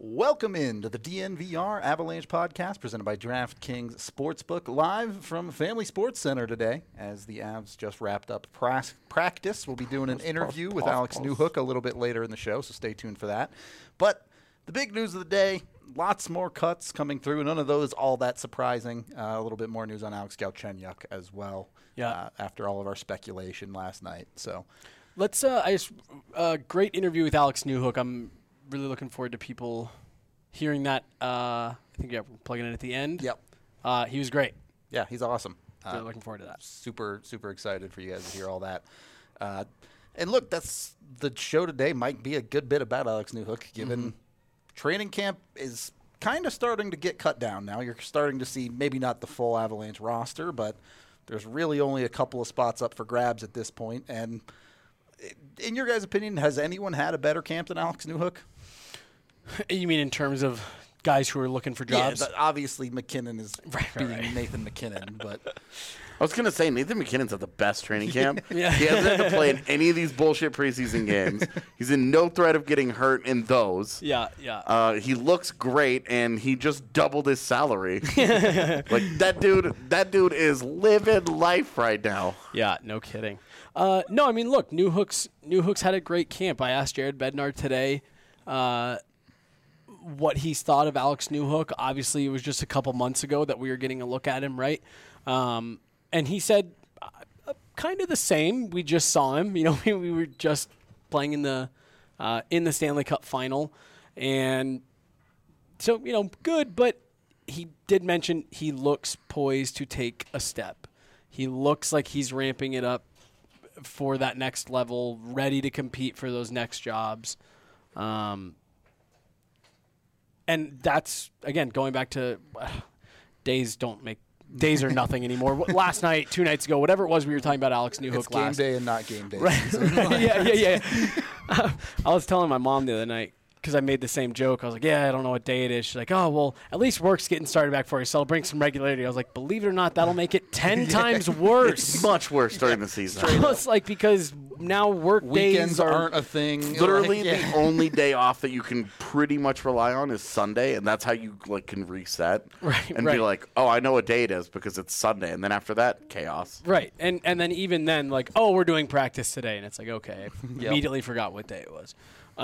Welcome into the DNVR Avalanche podcast presented by DraftKings Sportsbook, live from Family Sports Center today. As the Avs just wrapped up practice, we'll be doing an interview with Alex Newhook a little bit later in the show, so stay tuned for that. But the big news of the day, lots more cuts coming through. None of those all that surprising. A little bit more news on Alex Galchenyuk as well. After all of our speculation last night. So let's. Great interview with Alex Newhook. I'm really looking forward to people hearing that. I think we're plugging in at the end. Yep. He was great. Yeah, he's awesome. Really looking forward to that. Super excited for you guys to hear all that. And look, that's the show today might be a good bit about Alex Newhook, given training camp is kind of starting to get cut down now. You're starting to see maybe not the full Avalanche roster, but there's really only a couple of spots up for grabs at this point. And in your guys' opinion, has anyone had a better camp than Alex Newhook? You mean in terms of guys who are looking for jobs? Yeah, obviously McKinnon is being Nathan McKinnon, but I was going to say Nathan McKinnon's at the best training camp. Yeah. He hasn't had to play in any of these bullshit preseason games. He's in no threat of getting hurt in those. Yeah. He looks great, and he just doubled his salary. Like that dude is living life right now. Yeah, no kidding. No, I mean, look, Newhook's had a great camp. I asked Jared Bednar today what he's thought of Alex Newhook. Obviously, it was just a couple months ago that we were getting a look at him, right? And he said kind of the same. We just saw him. You know, we were just playing in the Stanley Cup final. And so, you know, good, but he did mention he looks poised to take a step. He looks like he's ramping it up for that next level, ready to compete for those next jobs. And that's, again, going back to days are nothing anymore. Last night, 2 nights ago, whatever it was, we were talking about Alex Newhook it's game day and not game day. Right. Yeah. I was telling my mom the other night, because I made the same joke. I was like, yeah, I don't know what day it is. She's like, oh, well, at least work's getting started back for you, so I'll bring some regularity. I was like, believe it or not, that'll make it 10 times worse. It's much worse during the season. It's like, because now work weekends days aren't a thing. Literally, the only day off that you can pretty much rely on is Sunday, and that's how you can reset and be like, oh, I know what day it is because it's Sunday, and then after that, chaos. Right, and then even then, like, oh, we're doing practice today, and it's like, okay, I immediately forgot what day it was.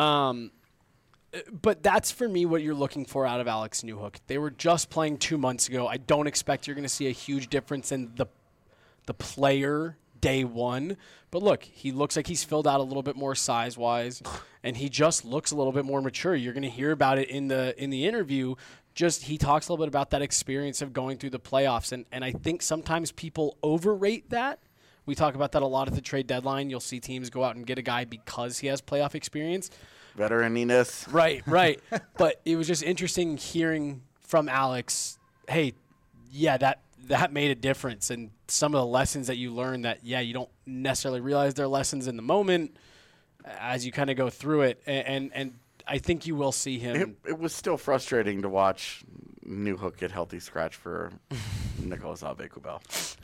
But that's, for me, what you're looking for out of Alex Newhook. They were just playing 2 months ago. I don't expect you're going to see a huge difference in the player day one. But look, he looks like he's filled out a little bit more size-wise, and he just looks a little bit more mature. You're going to hear about it in the interview. Just he talks a little bit about that experience of going through the playoffs, and I think sometimes people overrate that. We talk about that a lot at the trade deadline. You'll see teams go out and get a guy because he has playoff experience. Veteraniness. Right. But it was just interesting hearing from Alex, hey, yeah, that made a difference. And some of the lessons that you learn that, yeah, you don't necessarily realize they're lessons in the moment as you kind of go through it. And I think you will see him. It was still frustrating to watch Newhook get healthy scratch for Nicolas Aube-Kubel.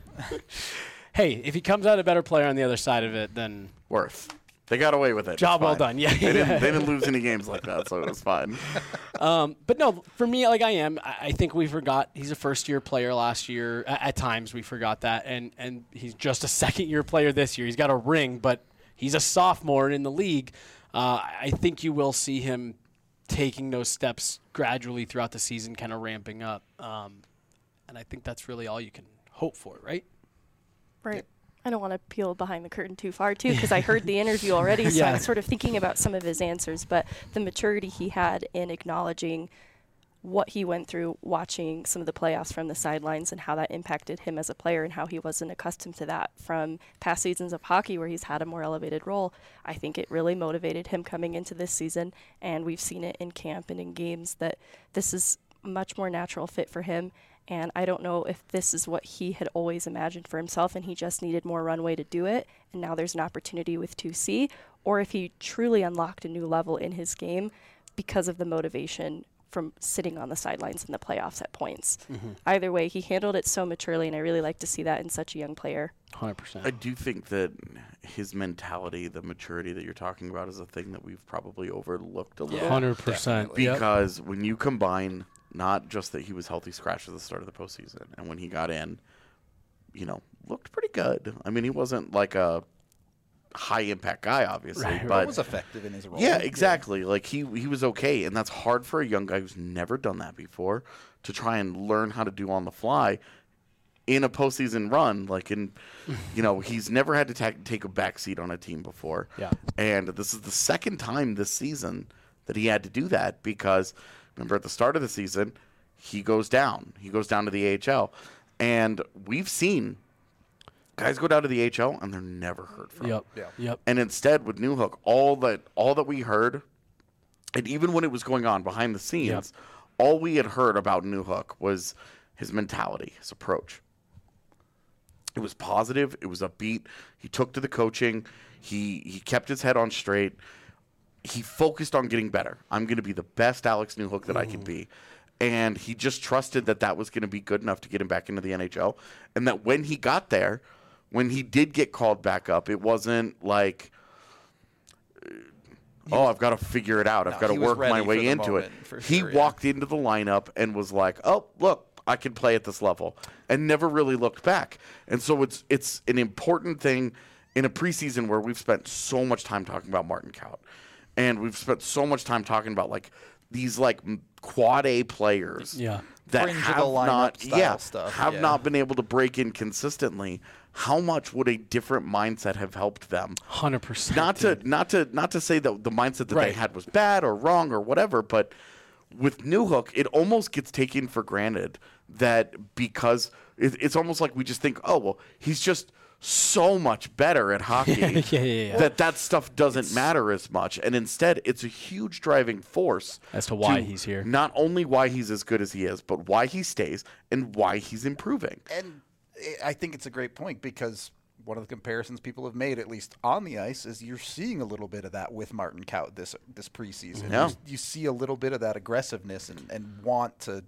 Hey, if he comes out a better player on the other side of it, then worth. They got away with it. Job well done. Yeah, they didn't lose any games like that, so it was fine. But no, for me, I think we forgot he's a first-year player last year. At times we forgot that, and he's just a second-year player this year. He's got a ring, but he's a sophomore in the league. I think you will see him taking those steps gradually throughout the season, kind of ramping up. And I think that's really all you can hope for, right? Right. I don't want to peel behind the curtain too far, too, because I heard the interview already, so I'm sort of thinking about some of his answers. But the maturity he had in acknowledging what he went through watching some of the playoffs from the sidelines and how that impacted him as a player and how he wasn't accustomed to that from past seasons of hockey where he's had a more elevated role, I think it really motivated him coming into this season. And we've seen it in camp and in games that this is a much more natural fit for him. And I don't know if this is what he had always imagined for himself and he just needed more runway to do it, and now there's an opportunity with 2C, or if he truly unlocked a new level in his game because of the motivation from sitting on the sidelines in the playoffs at points. Either way, he handled it so maturely, and I really like to see that in such a young player. 100%. I do think that his mentality, the maturity that you're talking about, is a thing that we've probably overlooked a little. 100%. Because when you combine not just that he was healthy scratch at the start of the postseason, and when he got in, looked pretty good. I mean, he wasn't like a high-impact guy, obviously. But he was effective in his role. Yeah, exactly. Yeah. Like, he was okay, and that's hard for a young guy who's never done that before to try and learn how to do on the fly in a postseason run. Like, he's never had to take a backseat on a team before. Yeah. And this is the second time this season that he had to do that because, remember, at the start of the season, he goes down. He goes down to the AHL. And we've seen guys go down to the AHL and they're never heard from. Yep. And instead, with Newhook, all that we heard, and even when it was going on behind the scenes, all we had heard about Newhook was his mentality, his approach. It was positive. It was upbeat. He took to the coaching. He kept his head on straight. He focused on getting better. I'm going to be the best Alex Newhook that I can be. And he just trusted that was going to be good enough to get him back into the NHL. And that when he got there, when he did get called back up, it wasn't like, I've got to figure it out. I've got to work my way into it. He walked into the lineup and was like, oh, look, I can play at this level, and never really looked back. And so it's an important thing in a preseason where we've spent so much time talking about Martin Kaut. And we've spent so much time talking about these quad A players that have not been able to break in consistently. How much would a different mindset have helped them? 100%. Not to say that the mindset that they had was bad or wrong or whatever, but with Newhook, it almost gets taken for granted that because it's almost like we just think, he's just so much better at hockey that stuff doesn't matter as much. And instead, it's a huge driving force as to why he's here. Not only why he's as good as he is, but why he stays and why he's improving. And I think it's a great point because one of the comparisons people have made, at least on the ice, is you're seeing a little bit of that with Martin Kaut this preseason. Yeah. You see a little bit of that aggressiveness and want to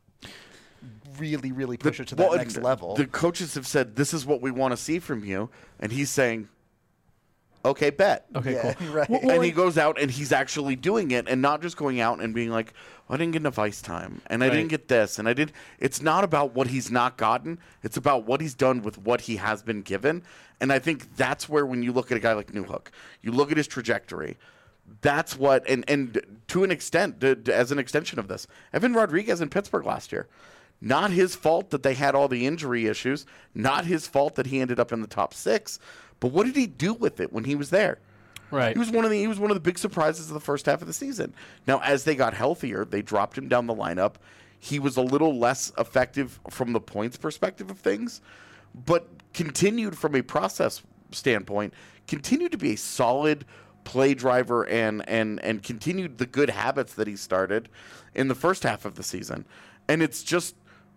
really, really push it to that next level. The coaches have said, this is what we want to see from you. And he's saying, okay, bet. Okay, cool. Right. And he goes out and he's actually doing it and not just going out and being like, I didn't get enough ice time and I didn't get this and I did. It's not about what he's not gotten. It's about what he's done with what he has been given. And I think that's where when you look at a guy like Newhook, you look at his trajectory. That's what, and to an extent, as an extension of this, Evan Rodriguez in Pittsburgh last year. Not his fault that they had all the injury issues. Not his fault that he ended up in the top 6. But what did he do with it when he was there? Right. He was one of the big surprises of the first half of the season. Now, as they got healthier, they dropped him down the lineup. He was a little less effective from the points perspective of things, but continued from a process standpoint, continued to be a solid play driver and continued the good habits that he started in the first half of the season. And it's just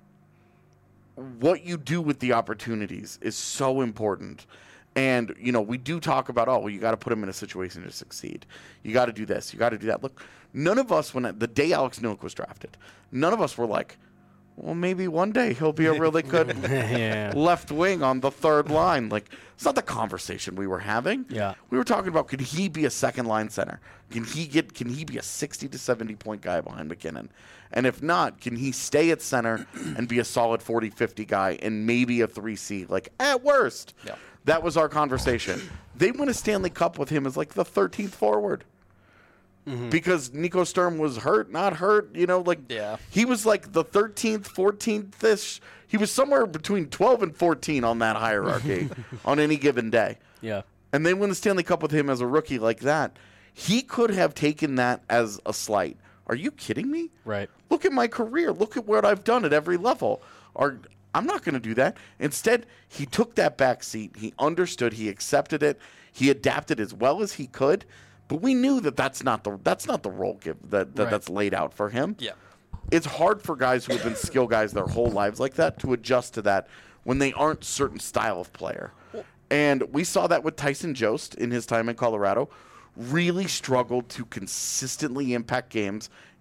what you do with the opportunities is so important. And, we do talk about, you got to put him in a situation to succeed. You got to do this. You got to do that. Look, none of us, the day Alex Newhook was drafted, none of us were like, well, maybe one day he'll be a really good left wing on the third line. Like, it's not the conversation we were having. Yeah. We were talking about, could he be a second line center? Can he be a 60 to 70 point guy behind McKinnon? And if not, can he stay at center and be a solid 40, 50 guy and maybe a 3C? Like, at worst. Yeah. That was our conversation. They won a Stanley Cup with him as like the 13th forward. Because Nico Sturm was not hurt, he was like the 13th, 14th-ish. He was somewhere between 12 and 14 on that hierarchy on any given day. Yeah. And they win the Stanley Cup with him as a rookie like that. He could have taken that as a slight. Are you kidding me? Right. Look at my career. Look at what I've done at every level. I'm not going to do that. Instead, he took that back seat. He understood. He accepted it. He adapted as well as he could. But we knew that's not the role that's laid out for him. Yeah. It's hard for guys who have been skill guys their whole lives like that to adjust to that when they aren't certain style of player. And we saw that with Tyson Jost in his time in Colorado. Really struggled to consistently impact games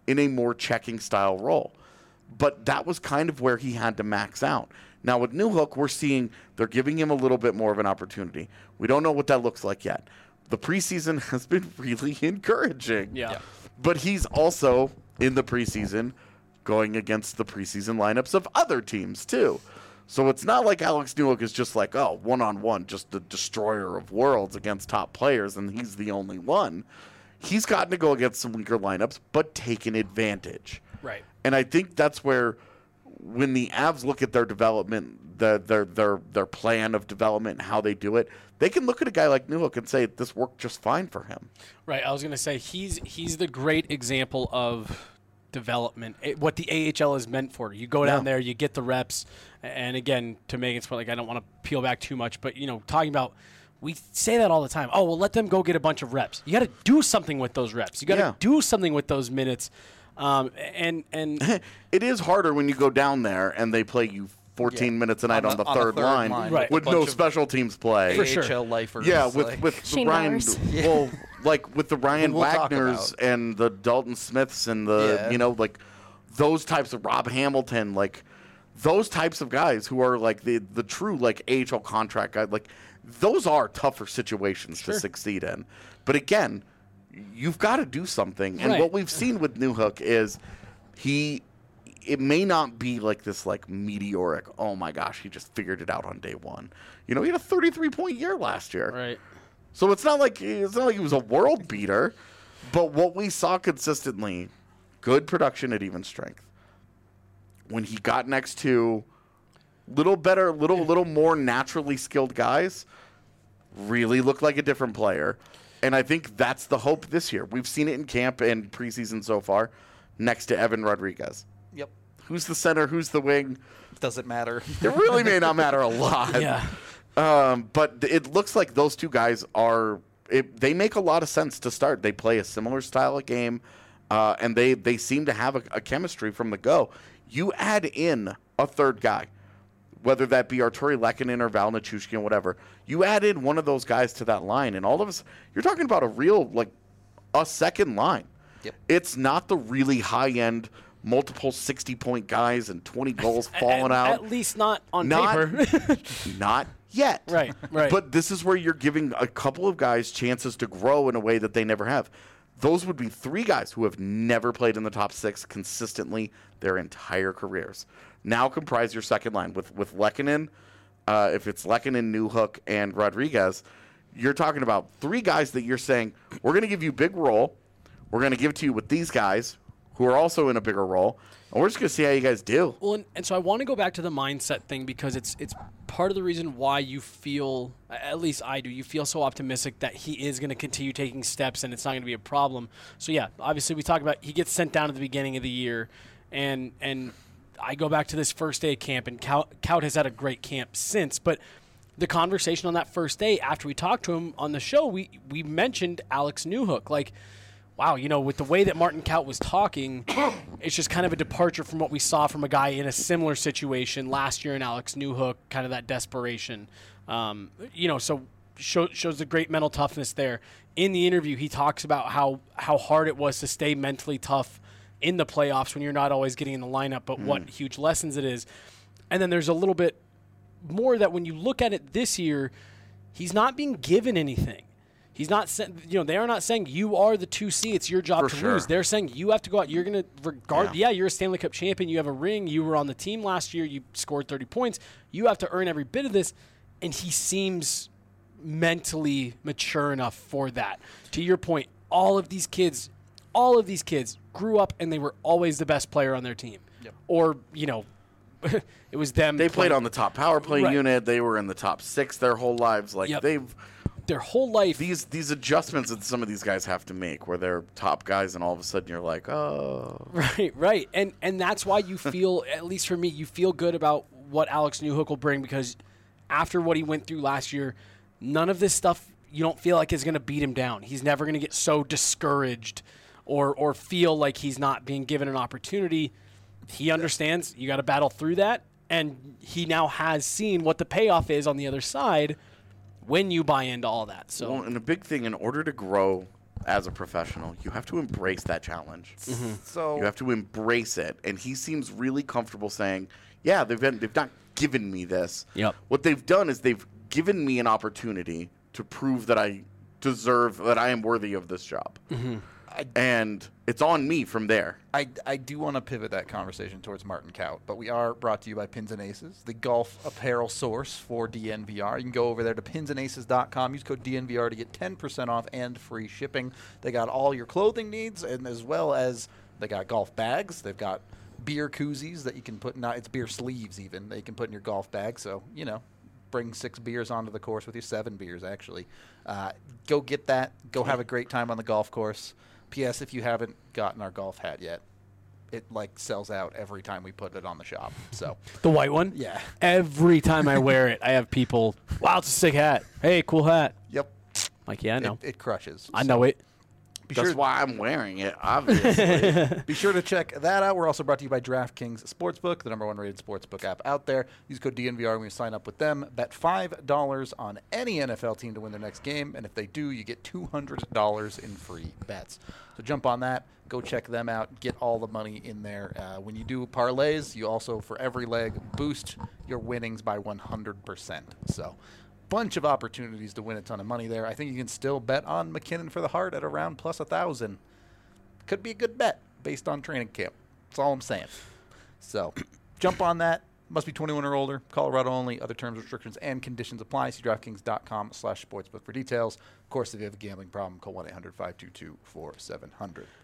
in a more checking style role. But that was kind of where he had to max out. Now with Newhook, we're seeing they're giving him a little bit more of an opportunity. We don't know what that looks like yet. The preseason has been really encouraging. Yeah. But he's also in the preseason going against the preseason lineups of other teams too. So it's not like Alex Newhook is just like, oh, one-on-one, just the destroyer of worlds against top players, and he's the only one. He's gotten to go against some weaker lineups, but taken advantage. Right. And I think that's where, when the Avs look at their development, their plan of development, and how they do it, they can look at a guy like Newhook and say this worked just fine for him. Right. I was going to say he's the great example of development, what the AHL is meant for. You go down there, you get the reps, and again, to Megan's point, like, I don't want to peel back too much, but talking about, we say that all the time. Oh, well, let them go get a bunch of reps. You got to do something with those reps. You got to do something with those minutes. And it is harder when you go down there and they play you 14 minutes a night on the third line right. with no special teams play. For sure. AHL lifers. Yeah, with the Ryan, well, like with the Ryan Wagners and the Dalton Smiths and the like those types of Rob Hamilton, like those types of guys who are like the true like AHL contract guys, like those are tougher situations to succeed in. But again, you've got to do something. And what we've seen with Newhook is it may not be like this like meteoric, oh my gosh, he just figured it out on day one. He had a 33-point year last year. Right. So it's not like he was a world beater, but what we saw consistently, good production at even strength. When he got next to little more naturally skilled guys, really looked like a different player. And I think that's the hope this year. We've seen it in camp and preseason so far, next to Evan Rodriguez. Yep. Who's the center? Who's the wing? Doesn't matter. It really may not matter a lot. Yeah. But it looks like those two guys they make a lot of sense to start. They play a similar style of game, and they seem to have a chemistry from the go. You add in a third guy, whether that be Arturi Lehkonen or Val Nichushkin, whatever. You add in one of those guys to that line, and all of us, you're talking about a second line. Yep. It's not the really high-end, multiple 60-point guys and 20 goals falling out. At least not on paper. Not yet. Right. But this is where you're giving a couple of guys chances to grow in a way that they never have. Those would be three guys who have never played in the top six consistently their entire careers. Now comprise your second line with Lehkonen. If it's Lehkonen, Newhook, and Rodriguez, you're talking about three guys that you're saying, we're going to give you a big role. We're going to give it to you with these guys who are also in a bigger role. And we're just going to see how you guys do. Well, and so I want to go back to the mindset thing because it's part of the reason why you feel, at least I do, you feel so optimistic that he is going to continue taking steps and it's not going to be a problem. So, yeah, obviously we talk about he gets sent down at the beginning of the year, and I go back to this first day of camp, and Kaut has had a great camp since, but the conversation on that first day after we talked to him on the show, we mentioned Alex Newhook. Like, wow, with the way that Martin Kaut was talking, it's just kind of a departure from what we saw from a guy in a similar situation last year in Alex Newhook, kind of that desperation. So shows the great mental toughness there. In the interview, he talks about how hard it was to stay mentally tough in the playoffs when you're not always getting in the lineup, but what huge lessons it is. And then there's a little bit more that when you look at it this year, he's not being given anything. He's not, they are not saying you are the 2C. It's your job to lose. They're saying you have to go out. You're going to regard. Yeah, you're a Stanley Cup champion. You have a ring. You were on the team last year. You scored 30 points. You have to earn every bit of this. And he seems mentally mature enough for that. To your point, all of these kids grew up and they were always the best player on their team. Yep. Or, it was them. They played on the top power play unit. They were in the top six their whole lives. Like their whole life. These adjustments that some of these guys have to make where they're top guys and all of a sudden you're like, oh. Right. And that's why you feel, at least for me, you feel good about what Alex Newhook will bring, because after what he went through last year, none of this stuff you don't feel like is going to beat him down. He's never going to get so discouraged or feel like he's not being given an opportunity. He understands you got to battle through that, and he now has seen what the payoff is on the other side when you buy into all that. So, and a big thing, in order to grow as a professional, you have to embrace that challenge. So You have to embrace it. And he seems really comfortable saying, yeah, they've not given me this. Yep. What they've done is they've given me an opportunity to prove that I am worthy of this job. And it's on me from there. I do want to pivot that conversation towards Martin Kaut, but we are brought to you by Pins and Aces, the golf apparel source for DNVR. You can go over there to pinsandaces.com, use code DNVR to get 10% off and free shipping. They got all your clothing needs, and as well as they got golf bags. They've got beer koozies that you can put, it's beer sleeves even, that you can put in your golf bag. So, bring 6 beers onto the course with you, 7 beers actually. Go get that. Go have a great time on the golf course. P.S. If you haven't gotten our golf hat yet, it sells out every time we put it on the shop. So The white one? yeah, Every time I wear it, I have people, wow, it's a sick hat. Hey, cool hat. yep, Like, yeah, I know. it crushes. I know it. Be That's sure, why I'm wearing it, obviously. be sure to check that out. We're also brought to you by DraftKings Sportsbook, the #1 rated sportsbook app out there. Use code DNVR when you sign up with them. Bet $5 on any NFL team to win their next game, and if they do, you get $200 in free bets. So jump on that. Go check them out. Get all the money in there. When you do parlays, you also, for every leg, boost your winnings by 100%. So bunch of opportunities to win a ton of money there. I think you can still bet on McKinnon for the Hart at around plus 1,000. Could be a good bet based on training camp. That's all I'm saying. So jump on that. Must be 21 or older. Colorado only. Other terms, restrictions, and conditions apply. See DraftKings.com/sportsbook for details. Of course, if you have a gambling problem, call 1-800-522-4700.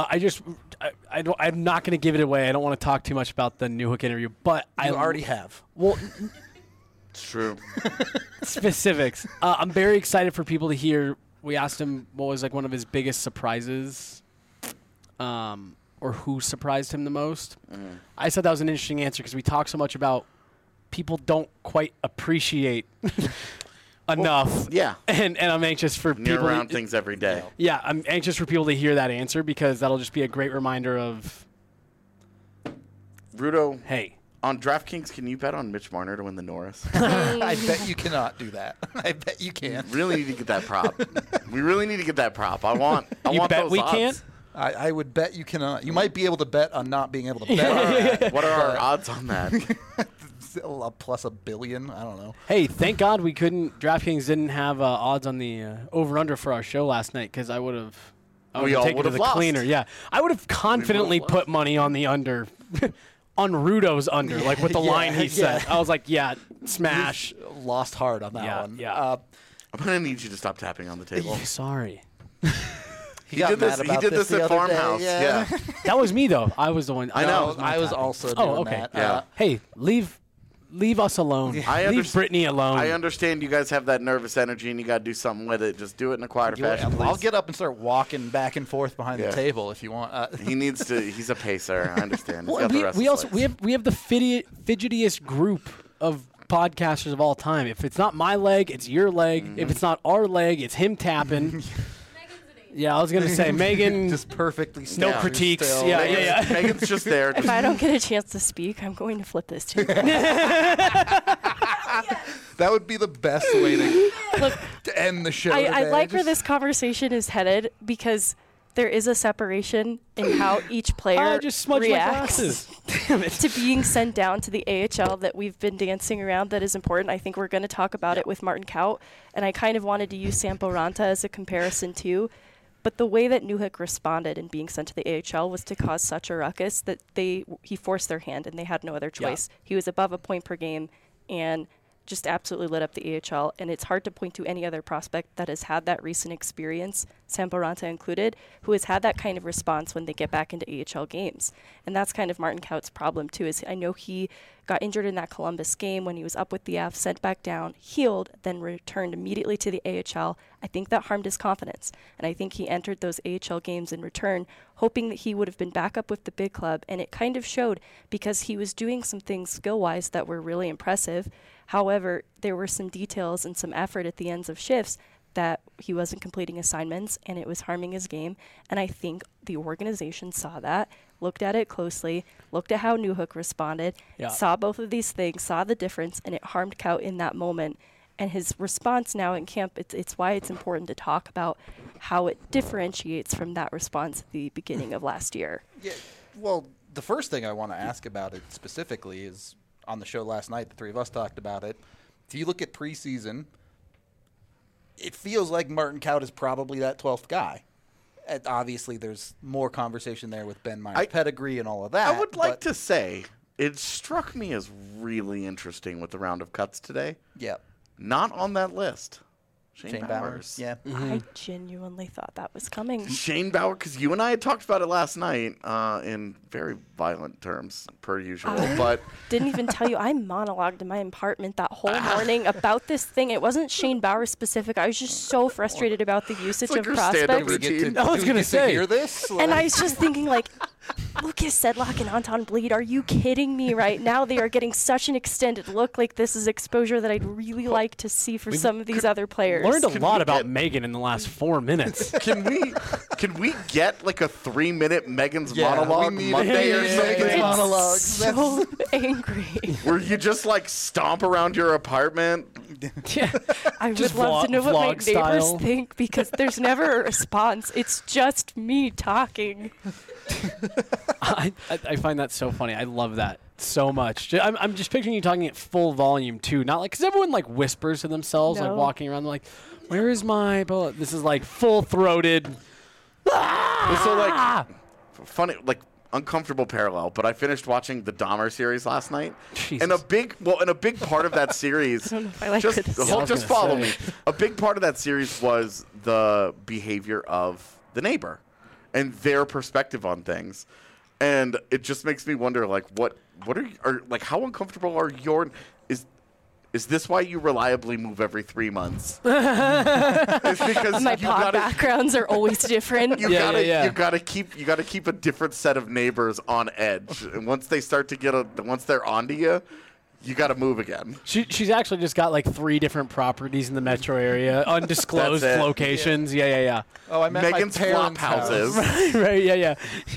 I'm not going to give it away. I don't want to talk too much about the Newhook interview, but You already have. Well, It's true. specifics. I'm very excited for people to hear. We asked him what was one of his biggest surprises, or who surprised him the most. I said that was an interesting answer because we talk so much about people don't quite appreciate enough. Yeah. And I'm anxious for You're people. around things every day. Yeah, I'm anxious for people to hear that answer because that'll just be a great reminder of, Rudo, hey. on DraftKings, can you bet on Mitch Marner to win the Norris? I bet you cannot do that. I bet you can. Really need to get that prop. We really need to get that prop. I want You bet those we odds. can't? I would bet you cannot. You might be able to bet on not being able to bet on that. What are our odds on that? Plus $1 billion. I don't know. Hey, thank God we couldn't. DraftKings didn't have odds on the over/under for our show last night because I would have. We all taken would to have the lost. cleaner. Yeah, I would have confidently lost. put money on the under, on Rudo's under, like with the Yeah, line he yeah. said. I was like, yeah, smash. Lost hard on that Yeah, one. yeah. I'm going to need you to stop tapping on the table. Sorry, He He got did mad this, he about did this the at other day, Farmhouse. Yeah. that was me though. I was the one. I No, know. my I was tapping. also Oh, doing okay. that. Yeah. Hey, leave us alone. I leave underst- Brittany alone. I understand you guys have that nervous energy and you got to do something with it. Just do it in a quieter fashion, please. I'll get up and start walking back and forth behind Yeah. the table if you want. He needs to. He's a pacer. I understand. He's Well, got the we, restless we also legs. we have the fidgetiest group of podcasters of all time. If it's not my leg, it's your leg. Mm-hmm. If it's not our leg, it's him tapping. Yeah, I was gonna say Megan. just perfectly no still. critiques. Still. Yeah, Megan's, yeah, yeah. Megan's just there. If I don't get a chance to speak, I'm going to flip this table. That would be the best way to, Look, to end the show. I today. like where Just- this conversation is headed because there is a separation in how each player I just smudged my reacts glasses. Damn it. to being sent down to the AHL that we've been dancing around that is important. I think we're going to talk about it with Martin Kaut, and I kind of wanted to use Sampo Ranta as a comparison too. But the way that Newhook responded in being sent to the AHL was to cause such a ruckus that he forced their hand and they had no other choice. He was above a point per game and just absolutely lit up the AHL. And it's hard to point to any other prospect that has had that recent experience, Sampo Ranta included, who has had that kind of response when they get back into AHL games. And that's kind of Martin Kaut's problem too, is I know he got injured in that Columbus game when he was up with the Avs, sent back down, healed, then returned immediately to the AHL. I think that harmed his confidence. And I think he entered those AHL games in return, hoping that he would have been back up with the big club. And it kind of showed because he was doing some things skill-wise that were really impressive. However, there were some details and some effort at the ends of shifts that he wasn't completing assignments and it was harming his game. And I think the organization saw that, looked at it closely, looked at how Newhook responded, saw both of these things, saw the difference, and it harmed Kaut in that moment. And his response now in camp, it's why it's important to talk about how it differentiates from that response at the beginning of last year. Yeah. Well, the first thing I want to ask about it specifically is on the show last night, the three of us talked about it. If you look at preseason, it feels like Martin Kaut is probably that 12th guy. And obviously, there's more conversation there with Ben Meyer's pedigree and all of that. I would like to say it struck me as really interesting with the round of cuts today. Yeah. Not on that list. Shane Bowers. Yeah. I genuinely thought that was coming. Shane Bauer, because you and I had talked about it last night in very violent terms, per usual. But Didn't even tell you, I monologued in my apartment that whole morning about this thing. It wasn't Shane Bauer specific. I was just so frustrated about the usage like of your stand-up prospects. routine. I was gonna say. Hear this? And I was just thinking, like, Lucas Sedlak and Anton Bleed, are you kidding me right now? They are getting such an extended look. Like, this is exposure that I'd really like to see for some of these other players. Learned a Can lot we about get- Megan in the last 4 minutes. can we get like a 3-minute Megan's Yeah, monologue we need Monday or Megan's something? monologue. So angry. Where you just like stomp around your apartment? Yeah. I Just would love to know what my vlog neighbors style. think, because there's never a response. It's just me talking. I find that so funny. I love that so much. I'm just picturing you talking at full volume too, not like because everyone like whispers to themselves, like No. walking around, like, "Where is my bullet?" This is like full throated. So like funny, like uncomfortable parallel. But I finished watching the Dahmer series last night, and a big part of that series. I don't know if I like just this. Yeah, I was just gonna follow say. me. A big part of that series was the behavior of the neighbor and their perspective on things, and it just makes me wonder, like, what are like, how uncomfortable are your is this why you reliably move every 3 months? It's because My you pod gotta, backgrounds are always different. you Yeah, gotta yeah. you gotta keep a different set of neighbors on edge, and once they start to once they're onto you, you gotta move again. She's actually just got like 3 different properties in the metro area, undisclosed That's it. locations. Yeah. Oh, I meant Megan's my flop parents' house. houses. Right. Yeah.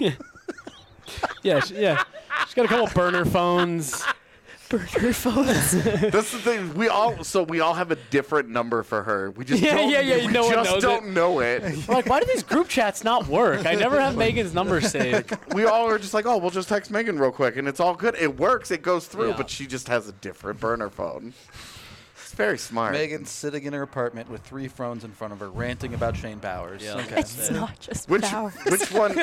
Yeah. She's got a couple burner phones. Burner phones. That's the thing. We all have a different number for her. We just Yeah, don't, yeah, we no one just knows don't it. know it. I'm like, why do these group chats not work? I never have Megan's number saved. We all are just like, oh, we'll just text Megan real quick, and it's all good. It works. It goes through, Yeah. but she just has a different burner phone. It's very smart. Megan's sitting in her apartment with 3 phones in front of her, ranting about Shane Bowers. Yeah. Okay. It's not just Which Bauer. which one?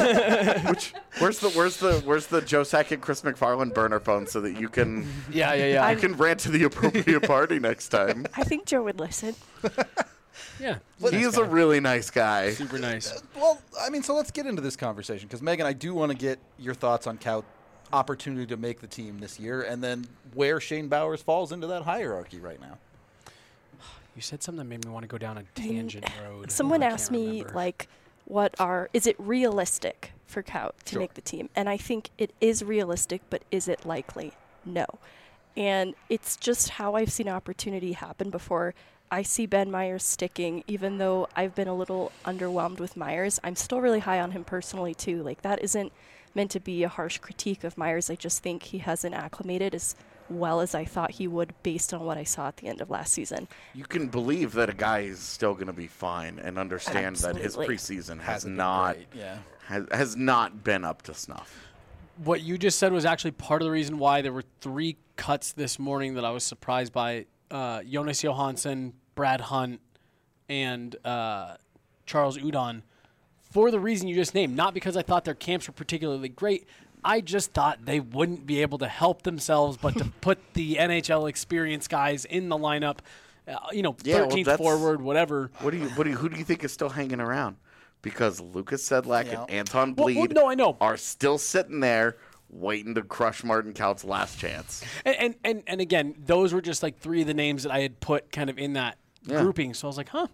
Where's the Joe Sakic, Chris McFarland burner phone so that you can Yeah. you can rant to the appropriate party next time? I think Joe would listen. Yeah. He is a really nice guy. super nice. Well, I mean, so let's get into this conversation because Megan, I do want to get your thoughts on Kaut opportunity to make the team this year, and then where Shane Bowers falls into that hierarchy right now. You said something that made me want to go down a tangent road. Someone I asked can't me, remember. like, is it realistic for Kaut to Sure. make the team? And I think it is realistic, but is it likely? No. And it's just how I've seen opportunity happen before. I see Ben Meyers sticking, even though I've been a little underwhelmed with Meyers. I'm still really high on him personally, too. Like, that isn't meant to be a harsh critique of Meyers. I just think he hasn't acclimated as well as I thought he would based on what I saw at the end of last season. You can believe that a guy is still going to be fine and understand that his Absolutely. preseason has Hasn't been not great, yeah. has not been up to snuff. What you just said was actually part of the reason why there were 3 cuts this morning that I was surprised by. Jonas Johansson, Brad Hunt, and Charles Udon, for the reason you just named. Not because I thought their camps were particularly great. I just thought they wouldn't be able to help themselves but to put the NHL experienced guys in the lineup, Yeah, well, 13th that's- forward, whatever. Who do you think is still hanging around? Because Lucas Sedlak Yeah. and Anton Well, Bleed no, I know. are still sitting there waiting to crush Martin Kaut's last chance. And again, those were just like 3 of the names that I had put kind of in that grouping. So I was like, huh.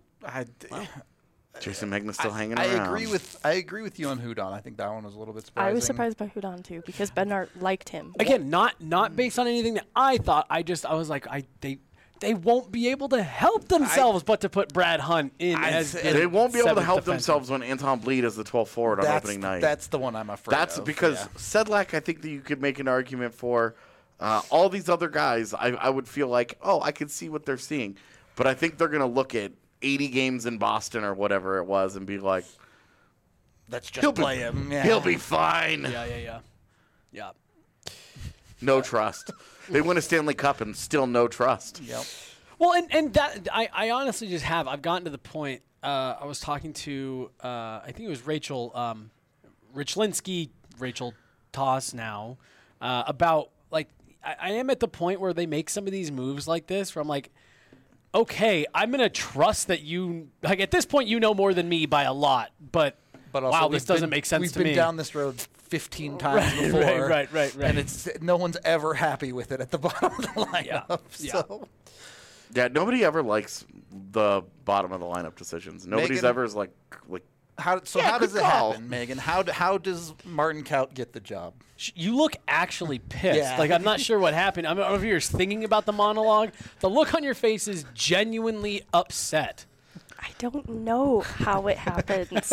Jason Megna's still hanging I around. agree with you on Hudon. I think that one was a little bit surprising. I was surprised by Hudon, too, because Bednar liked him. Again, not based on anything that I thought. I was like, they won't be able to help themselves but to put Brad Hunt in as They won't be able to seventh help defenseman. themselves when Anton Bleed is the 12th forward on opening night. That's the one I'm afraid That's of. because yeah. Sedlak, I think that you could make an argument for. All these other guys, I would feel like, oh, I can see what they're seeing. But I think they're going to look at 80 games in Boston or whatever it was and be like, Let's just play him. Yeah. He'll be fine. Yeah. No trust. They win a Stanley Cup and still no trust. Yep. Well, and that I honestly just have. I've gotten to the point. I was talking to I think it was Rachel Richlinsky, Rachel Toss now, about like I am at the point where they make some of these moves like this where I'm like, okay, I'm gonna trust that you like at this point you know more than me by a lot, but also, wow, this doesn't make sense to me. We've been down this road 15 times before. Right. And no one's ever happy with it at the bottom of the lineup. Yeah. So. Yeah, nobody ever likes the bottom of the lineup decisions. Nobody's Megan, ever is like how does it happen, Megan? How does Martin Kaut get the job? You look actually pissed. Yeah. Like, I'm not sure what happened. I don't know if you're thinking about the monologue. The look on your face is genuinely upset. I don't know how it happens.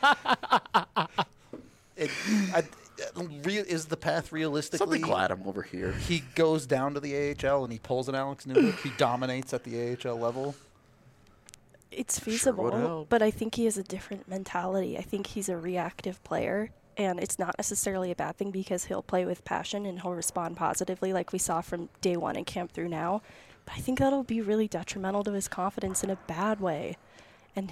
Is the path realistically? something glad I'm over here. He goes down to the AHL and he pulls an Alex Newhook. He dominates at the AHL level. It's Sure would feasible, help. but I think he has a different mentality. I think he's a reactive player, and it's not necessarily a bad thing because he'll play with passion and he'll respond positively like we saw from day one in camp through now. But I think that'll be really detrimental to his confidence in a bad way. And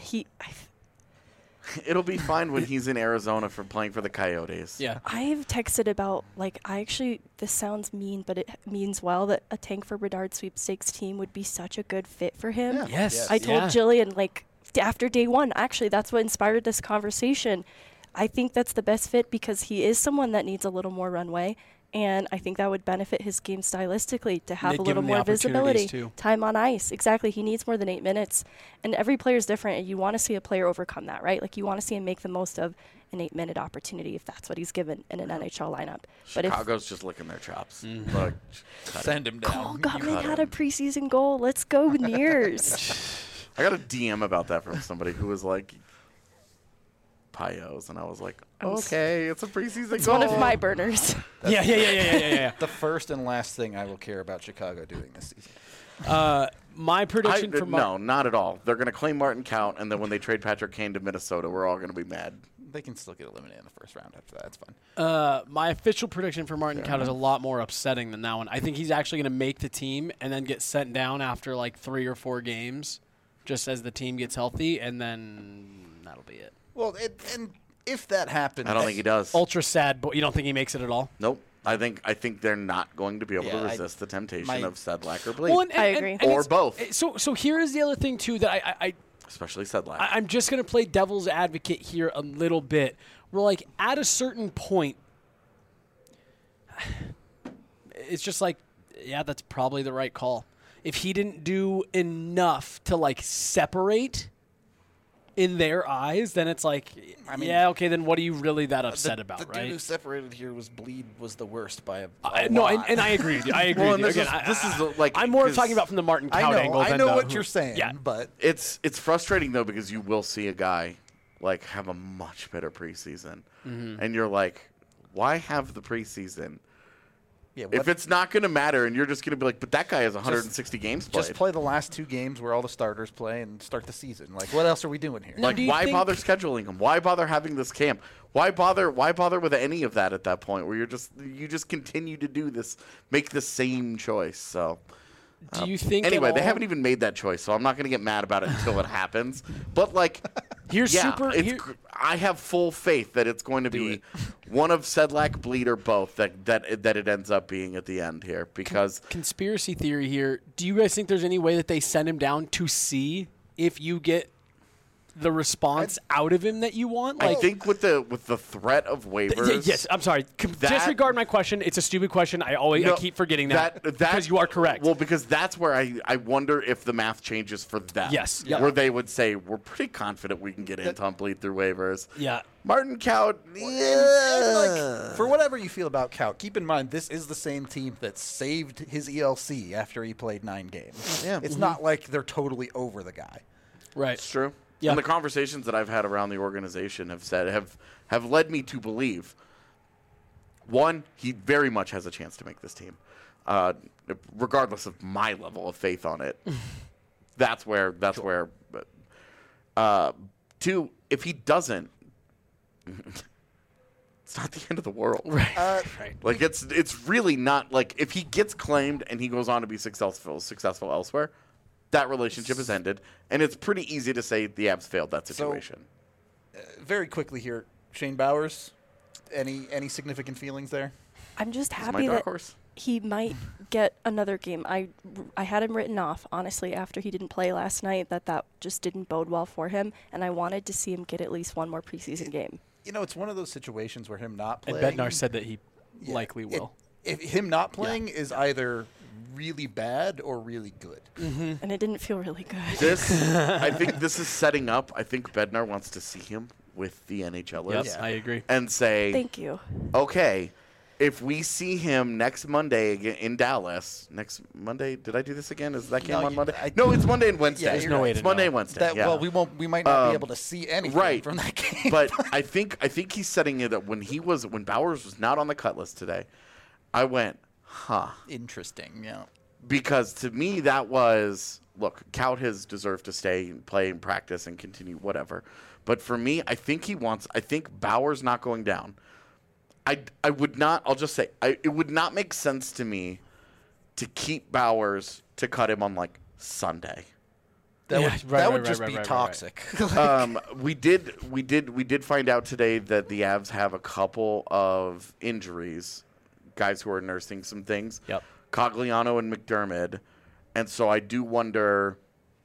It'll be fine when he's in Arizona for playing for the Coyotes. Yeah. I've texted about, this sounds mean, but it means well, that a Tank for Bedard sweepstakes team would be such a good fit for him. Yeah. Yes. I told Jillian, after day one, actually, that's what inspired this conversation. I think that's the best fit because he is someone that needs a little more runway, and I think that would benefit his game stylistically to have They'd a give little him the more opportunities, visibility. too. Time on ice. Exactly. He needs more than 8 minutes, and every player is different, and you want to see a player overcome that, right? Like, you want to see him make the most of an 8-minute opportunity if that's what he's given in an NHL lineup. But if Chicago's just licking their chops. Mm-hmm. Like, cut it. Send him Cole down. Gutman had a preseason goal, let's go Nears. I got a DM about that from somebody who was like, Pios, and I was like, okay, it's a preseason It's goal. one of my burners. Yeah. The first and last thing I will care about Chicago doing this season. My prediction for no, not at all. They're going to claim Martin Count, and then when they trade Patrick Kane to Minnesota, we're all going to be mad. They can still get eliminated in the first round after that. It's fine. my official prediction for Martin Kaut is a lot more upsetting than that one. I think he's actually going to make the team and then get sent down after like 3 or 4 games, just as the team gets healthy, and then that'll be it. Well, and if that happens, I don't think he does. Ultra sad, but you don't think he makes it at all? Nope. I think they're not going to be able to Yeah, resist the temptation my- of Sedlak or Bleed. Well, I agree. Or it's- both. So here is the other thing too that Especially Sedlak. I'm just going to play devil's advocate here a little bit. We're like, at a certain point, it's just like, yeah, that's probably the right call. If he didn't do enough to, like, separate in their eyes, then it's like, yeah, okay, then what are you really that upset about, the right? dude who separated here was Bleed was the worst by a No, lot. and I agree with you. I agree Well, with you. and this Again, is- this is like- I'm more 'cause talking about from the Martin Kaut angle I than know the- what you're saying, Yeah. but It's frustrating though because you will see a guy like have a much better preseason, and you're like, why have the preseason yeah, if it's not going to matter? And you're just going to be like, but that guy has 160 games played. just play the last 2 games where all the starters play and start the season. Like, what else are we doing here? Like, do you why think- bother scheduling him? Why bother having this camp? Why bother with any of that at that point where you just continue to do this, make the same choice? So. Do you think Anyway, at they all- haven't even made that choice, so I'm not going to get mad about it until it happens. But like, Here's yeah, super. it's here- I have full faith that it's going to be one of Sedlak, Bleed, or both that it ends up being at the end here because conspiracy theory here. Do you guys think there's any way that they send him down to see if you get the response out of him that you want? I think with the threat of waivers. Yes, I'm sorry. that- Disregard my question. It's a stupid question. I No, keep forgetting that because you are correct. Well, because that's where I wonder if the math changes for them. Yes, yeah. Where they would say, we're pretty confident we can get Anton Bleed through waivers. Yeah. Martin Kaut, Like, for whatever you feel about Kaut, keep in mind this is the same team that saved his ELC after he played 9 games. Yeah. It's not like they're totally over the guy. Right. It's true. Yeah. And the conversations that I've had around the organization have led me to believe, one, he very much has a chance to make this team, regardless of my level of faith on it. That's where Two, if he doesn't, it's not the end of the world. Right. Like it's really not like if he gets claimed and he goes on to be successful elsewhere, that relationship is ended, and it's pretty easy to say the Avs failed that situation. Very quickly here, Shane Bowers, any significant feelings there? I'm just My happy dark that horse. he might get another game. I had him written off, honestly, after he didn't play last night, that just didn't bode well for him, and I wanted to see him get at least one more preseason game. You know, it's one of those situations where him not And playing. Bednar said that he likely will. If him not playing is either really bad or really good. And it didn't feel really good. I think this is setting up. I think Bednar wants to see him with the NHLers. Yes, I agree. And say, Thank you. okay, if we see him next Monday again in Dallas, next Monday, did I do this again? Is that game No, on Monday? I- No, it's Monday and Wednesday. Yeah, there's no way It's to Monday know. and Wednesday. Yeah. Well, we might not be able to see anything right. from that game. But I think he's setting it up when Bowers was not on the cut list today. I went, huh. Interesting, yeah. Because to me, that was, look, Kaut has deserved to stay and play and practice and continue, whatever. But for me, I think Bauer's not going down. I would not, I'll just say, it would not make sense to me to keep Bowers to cut him on like Sunday. That Yeah, would, right, that right, would just right, be right, right. toxic. We did find out today that the Avs have a couple of injuries, guys who are nursing some things. Yep. Cogliano and McDermott. And so I do wonder,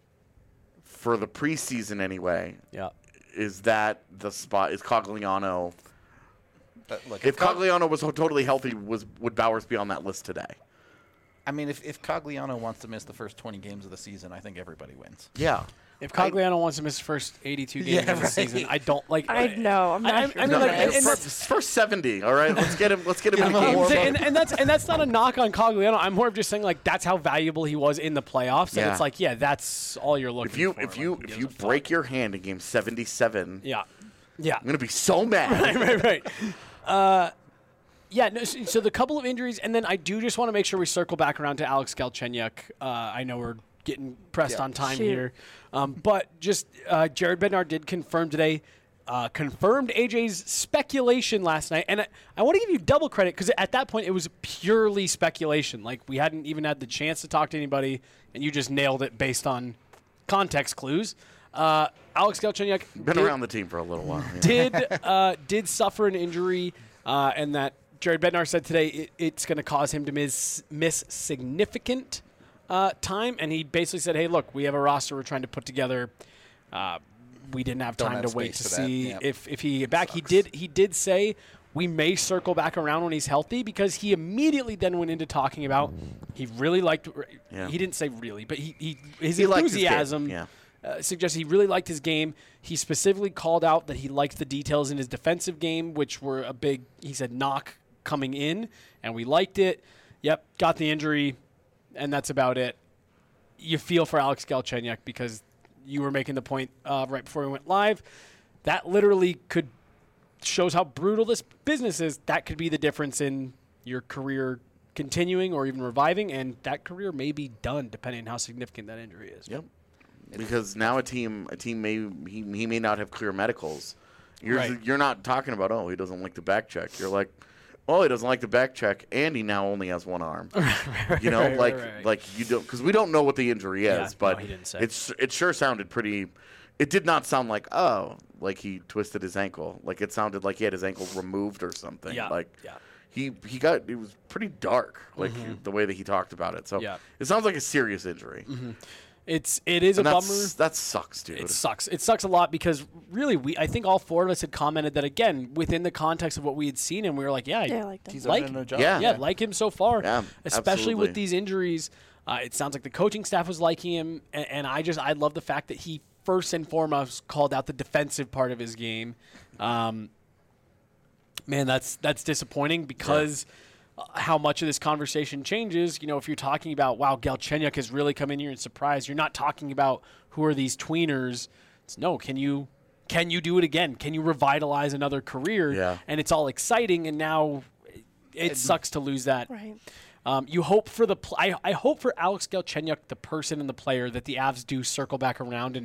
for the preseason anyway, Yeah. is that the spot? Is Cogliano? Look, If Cogliano was totally healthy, would Bowers be on that list today? I mean, if Cogliano wants to miss the first 20 games of the season, I think everybody wins. Yeah. If Cogliano wants to miss the first 82 games Yeah, of the right. season, I don't like. I know. I'm not I sure. mean, No, like, no, and first 70. All right, let's get him. Let's get him in him the a game. warm-up. and that's not a knock on Cogliano. I'm more of just saying like that's how valuable he was in the playoffs. And Yeah. it's like, yeah, that's all you're looking If you for. if you Like, who if gives you a fuck? break your hand in game 77, yeah. I'm gonna be so mad. right. Yeah, no, so the couple of injuries, and then I do just want to make sure we circle back around to Alex Galchenyuk. I know we're getting pressed Yeah. on time Shoot. here. But just Jared Bednar did confirm today, confirmed AJ's speculation last night. And I want to give you double credit because at that point it was purely speculation. Like we hadn't even had the chance to talk to anybody, and you just nailed it based on context clues. Alex Galchenyuk Been around the team for a little while. Yeah. did suffer an injury, and that Jared Bednar said today it's going to cause him to miss significant time. And he basically said, hey, look, we have a roster we're trying to put together. We didn't have Don't time have to wait space to for that. see Yep. if he get back. He did say we may circle back around when he's healthy because he immediately then went into talking about he really liked Yeah. he didn't say really, but his He liked his game. enthusiasm Yeah. suggests he really liked his game. He specifically called out that he liked the details in his defensive game, which were a big, he said, knock coming in, and we liked it. Yep, got the injury, and that's about it. You feel for Alex Galchenyuk because you were making the point right before we went live. That literally shows how brutal this business is. That could be the difference in your career continuing or even reviving, and that career may be done depending on how significant that injury is. Yep. Because now a team he may not have clear medicals. You're not talking about he doesn't like the back check. You're like, he doesn't like the back check, and he now only has one arm. You know, right. like you don't, because we don't know what the injury is, Yeah, but no, he didn't say. it sure sounded pretty. It did not sound like like he twisted his ankle. Like it sounded like he had his ankle removed or something. Yeah, Like yeah. it was pretty dark, like the way that he talked about it. So Yeah. it sounds like a serious injury. It is And a bummer. that sucks, dude. It sucks. It sucks a lot because really, I think all four of us had commented that again within the context of what we had seen, and we were like, Yeah, I liked him. He's Like- done a job. Yeah. like him so far. Yeah, especially with absolutely. these injuries. It sounds like the coaching staff was liking him, and I love the fact that he first and foremost called out the defensive part of his game. Man, that's disappointing because. How much of this conversation changes, if you're talking about, wow, Galchenyuk has really come in here and surprised, you're not talking about who are these tweeners. It's no, can you do it again? Can you revitalize another career? Yeah. And it's all exciting, and now it sucks to lose that. Right. You hope for I hope for Alex Galchenyuk, the person and the player, that the Avs do circle back around and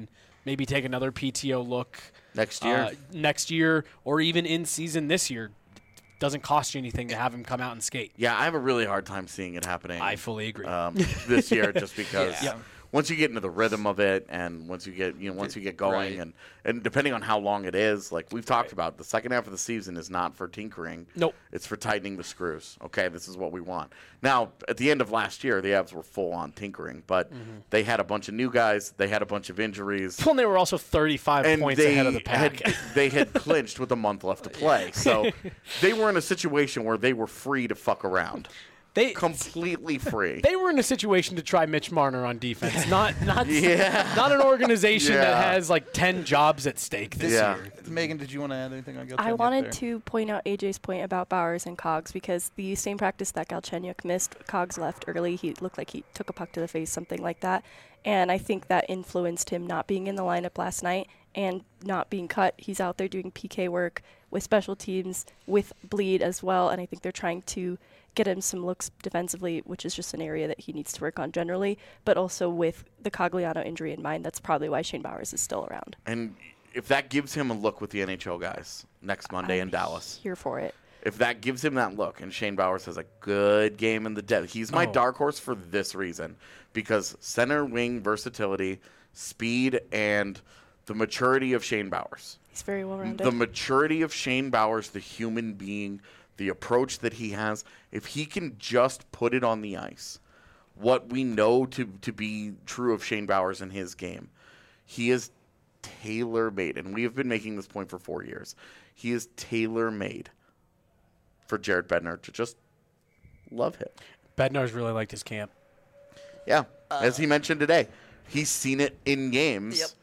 maybe take another PTO look next year, or even in season this year. Doesn't cost you anything to have him come out and skate. Yeah, I have a really hard time seeing it happening. I fully agree. This year, just because Yeah. once you get into the rhythm of it, and once you get going, Right. and depending on how long it is, like we've talked about, the second half of the season is not for tinkering. Nope. It's for tightening the screws. Okay, this is what we want. Now, at the end of last year, the Avs were full on tinkering, but they had a bunch of new guys. They had a bunch of injuries. Well, they were also 35 And points ahead of the pack. they had clinched with a month left to play. So they were in a situation where they were free to fuck around. Completely free. They were in a situation to try Mitch Marner on defense, not Yeah. not an organization that Yeah. has like 10 jobs at stake this Yeah. year. Megan, did you want to add anything on Galchenyuk I wanted there? to point out AJ's point about Bowers and Cogs because the same practice that Galchenyuk missed, Cogs left early. He looked like he took a puck to the face, something like that. And I think that influenced him not being in the lineup last night and not being cut. He's out there doing PK work with special teams, with bleed as well. And I think they're trying to get him some looks defensively, which is just an area that he needs to work on generally. But also with the Cogliano injury in mind, that's probably why Shane Bowers is still around. And if that gives him a look with the NHL guys next Monday in I'm Dallas, Here for it. if that gives him that look, and Shane Bowers has a good game in the depth, he's my dark horse for this reason, because center wing versatility, speed, and the maturity of Shane Bowers. He's very well rounded. The maturity of Shane Bowers, the human being, the approach that he has, if he can just put it on the ice, what we know to be true of Shane Bowers in his game, he is tailor-made, and we have been making this point for 4 years. He is tailor-made for Jared Bednar to just love him. Bednar's really liked his camp. Yeah, as he mentioned today, he's seen it in games Yep.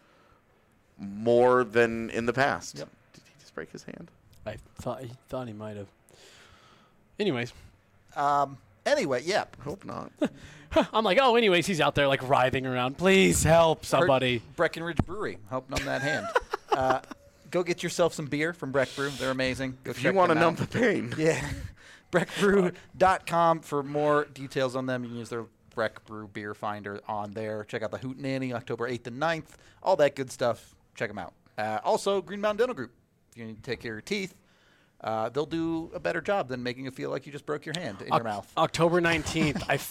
more than in the past. Yep. Did he just break his hand? I thought he might have. Anyways, Anyway, yeah. Hope not. I'm like, oh, anyways, he's out there like writhing around. Please help somebody. Breckenridge Brewery helping numb that hand. Go get yourself some beer from Breck Brew. They're amazing. Go If check you want to them numb out. the pain. Yeah. BreckBrew.com for more details on them. You can use their Breck Brew beer finder on there. Check out the Hootenanny, October 8th and 9th. All that good stuff. Check them out. Also, Green Mountain Dental Group. If you need to take care of your teeth, they'll do a better job than making you feel like you just broke your hand in your mouth. October 19th, I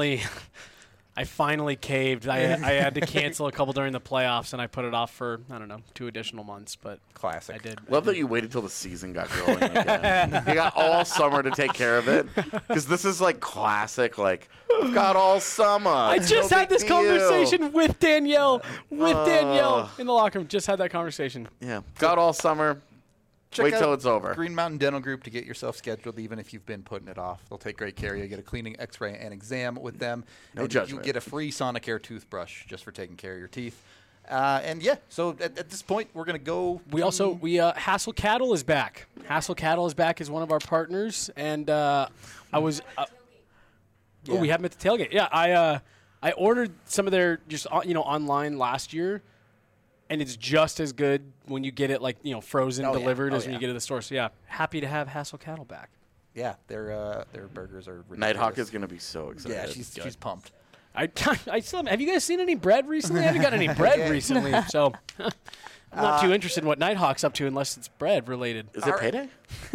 finally caved. I had to cancel a couple during the playoffs, and I put it off for, 2 additional months, but Classic. I did. Love that you waited till the season got going again. You got all summer to take care of it. Because this is like classic, like, we've got all summer. I just had this conversation with Danielle in the locker room. Just had that conversation. Yeah, got all summer. Check Wait out till it's over. Green Mountain Dental Group to get yourself scheduled, even if you've been putting it off. They'll take great care of you. Get a cleaning, X-ray, and exam with them. No and judgment. You get a free Sonicare toothbrush just for taking care of your teeth. And yeah, so at this point, we're gonna go. Hassel Cattle is back. Hassel Cattle is back as one of our partners, and I was. Yeah. We have them at the tailgate. Yeah, I ordered some of their just online last year. And it's just as good when you get it frozen delivered as when you get it at the store. So yeah, happy to have Hassel Cattle back. Yeah, their burgers are ridiculous. Nighthawk is going to be so excited. Yeah, she's pumped. I still have you guys seen any bread recently? I haven't got any bread recently, so I'm not too interested in what Nighthawk's up to unless it's bread related. Is it payday?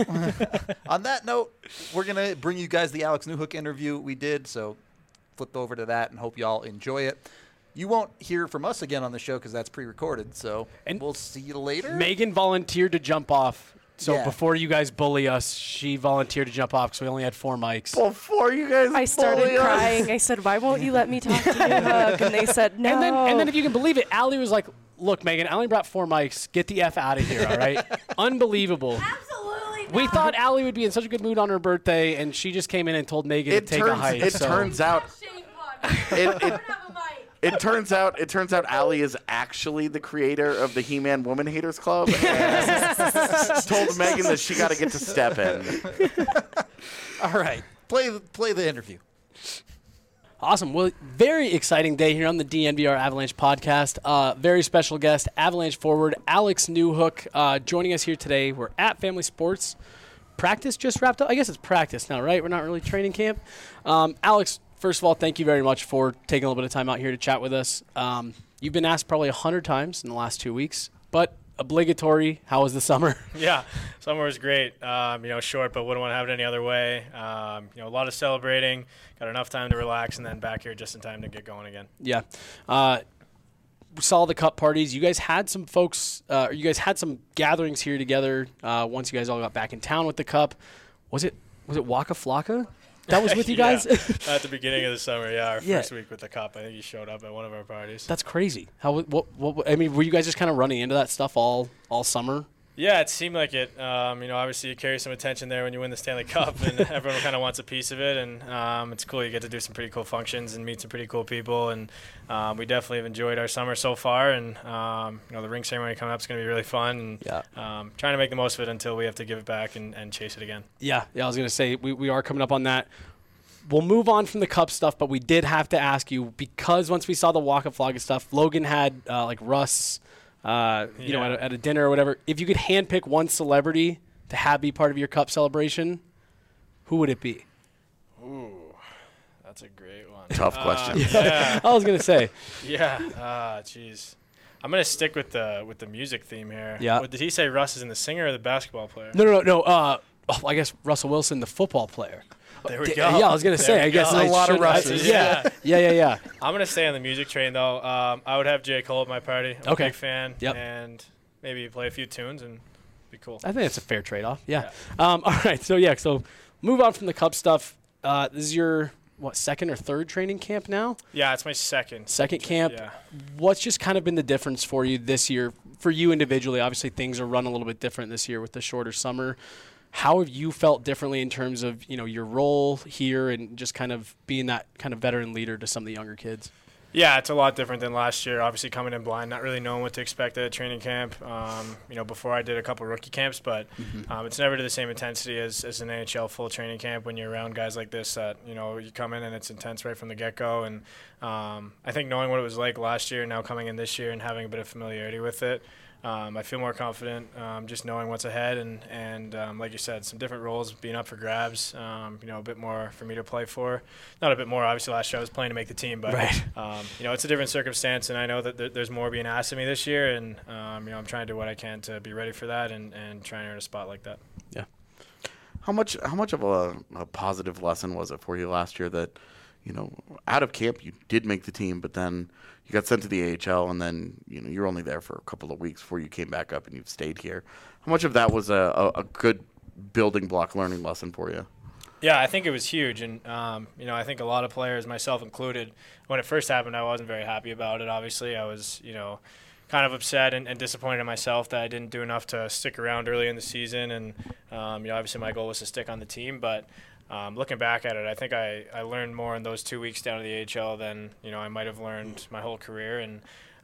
On that note, we're gonna bring you guys the Alex Newhook interview we did. So flip over to that and hope y'all enjoy it. You won't hear from us again on the show because that's pre-recorded, so we'll see you later. Megan volunteered to jump off. So Yeah. before you guys bully us, she volunteered to jump off because we only had 4 mics. Before you guys I started bully us. crying. I said, "Why won't you let me talk to Newhook?" And they said, "No." And then if you can believe it, Allie was like, "Look, Megan, I only brought 4 mics. Get the F out of here, all right?" Unbelievable. Absolutely not. We thought Allie would be in such a good mood on her birthday, and she just came in and told Megan to take a hike. It so. turns out Shame on me. I don't have a mic. it turns out Allie is actually the creator of the He-Man Woman Haters Club and told Megan that she got to get to step in. All right, play the interview. Awesome. Well, very exciting day here on the DNVR Avalanche podcast. Very special guest, Avalanche forward Alex Newhook, joining us here today. We're at Family Sports. Practice just wrapped up. I guess it's practice now, right? We're not really training camp. Alex, first of all, thank you very much for taking a little bit of time out here to chat with us. You've been asked probably 100 times in the last 2 weeks, but obligatory. How was the summer? Yeah, summer was great. Short, but wouldn't want to have it any other way. A lot of celebrating, got enough time to relax, and then back here just in time to get going again. Yeah. We saw the cup parties. You guys had some folks, you guys had some gatherings here together once you guys all got back in town with the cup. Was it Waka Flocka? That was with you guys? At the beginning of the summer, our first week with the cup. I think he showed up at one of our parties. That's crazy. Were you guys just kind of running into that stuff all summer? Yeah, it seemed like it. Obviously you carry some attention there when you win the Stanley Cup, and everyone kind of wants a piece of it. And it's cool. You get to do some pretty cool functions and meet some pretty cool people. And we definitely have enjoyed our summer so far. And the ring ceremony coming up is going to be really fun. And trying to make the most of it until we have to give it back and chase it again. Yeah. I was going to say we are coming up on that. We'll move on from the cup stuff, but we did have to ask you, because once we saw the Waka Flocka stuff, Logan had Russ. At a dinner or whatever, if you could handpick one celebrity to have be part of your cup celebration, who would it be? Ooh, that's a great one. Tough question. Yeah. I was gonna say. Yeah. Jeez. I'm gonna stick with the music theme here. Yeah. Did he say Russ is in the singer or the basketball player? No. I guess Russell Wilson, the football player. There we go. Yeah, I was gonna say. I guess there's a lot of Russes. Yeah. I'm gonna stay on the music train though. I would have J. Cole at my party. I'm a big fan. Yep. And maybe play a few tunes and be cool. I think it's a fair trade-off. Yeah. All right. So move on from the cup stuff. This is your second or third training camp now? Yeah, it's my second. Second camp. Yeah. What's just kind of been the difference for you this year? For you individually, obviously things are run a little bit different this year with the shorter summer. How have you felt differently in terms of, your role here and just kind of being that kind of veteran leader to some of the younger kids? Yeah, it's a lot different than last year. Obviously coming in blind, not really knowing what to expect at a training camp. Before I did a couple rookie camps, but it's never to the same intensity as an NHL full training camp when you're around guys like this that, you come in and it's intense right from the get-go. And I think knowing what it was like last year, now coming in this year and having a bit of familiarity with it, I feel more confident just knowing what's ahead and like you said, some different roles being up for grabs, a bit more for me to play for. Not a bit more, obviously last year I was playing to make the team, but right. It's a different circumstance, and I know that there's more being asked of me this year, and I'm trying to do what I can to be ready for that and try and earn a spot like that. Yeah. How much of a positive lesson was it for you last year that, out of camp you did make the team, but then you got sent to the AHL, and then you're only there for a couple of weeks before you came back up and you've stayed here. How much of that was a good building block learning lesson for you? Yeah, I think it was huge, and I think a lot of players, myself included, when it first happened, I wasn't very happy about it. Obviously, I was kind of upset and disappointed in myself that I didn't do enough to stick around early in the season, and obviously my goal was to stick on the team, but. Looking back at it, I think I learned more in those 2 weeks down at the AHL than I might have learned my whole career, and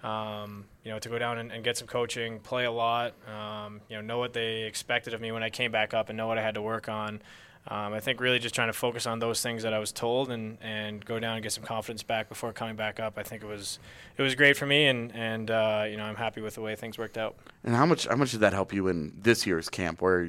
to go down and get some coaching, play a lot, know what they expected of me when I came back up and know what I had to work on. I think really just trying to focus on those things that I was told and go down and get some confidence back before coming back up. I think it was great for me, and I'm happy with the way things worked out. And how much did that help you in this year's camp, where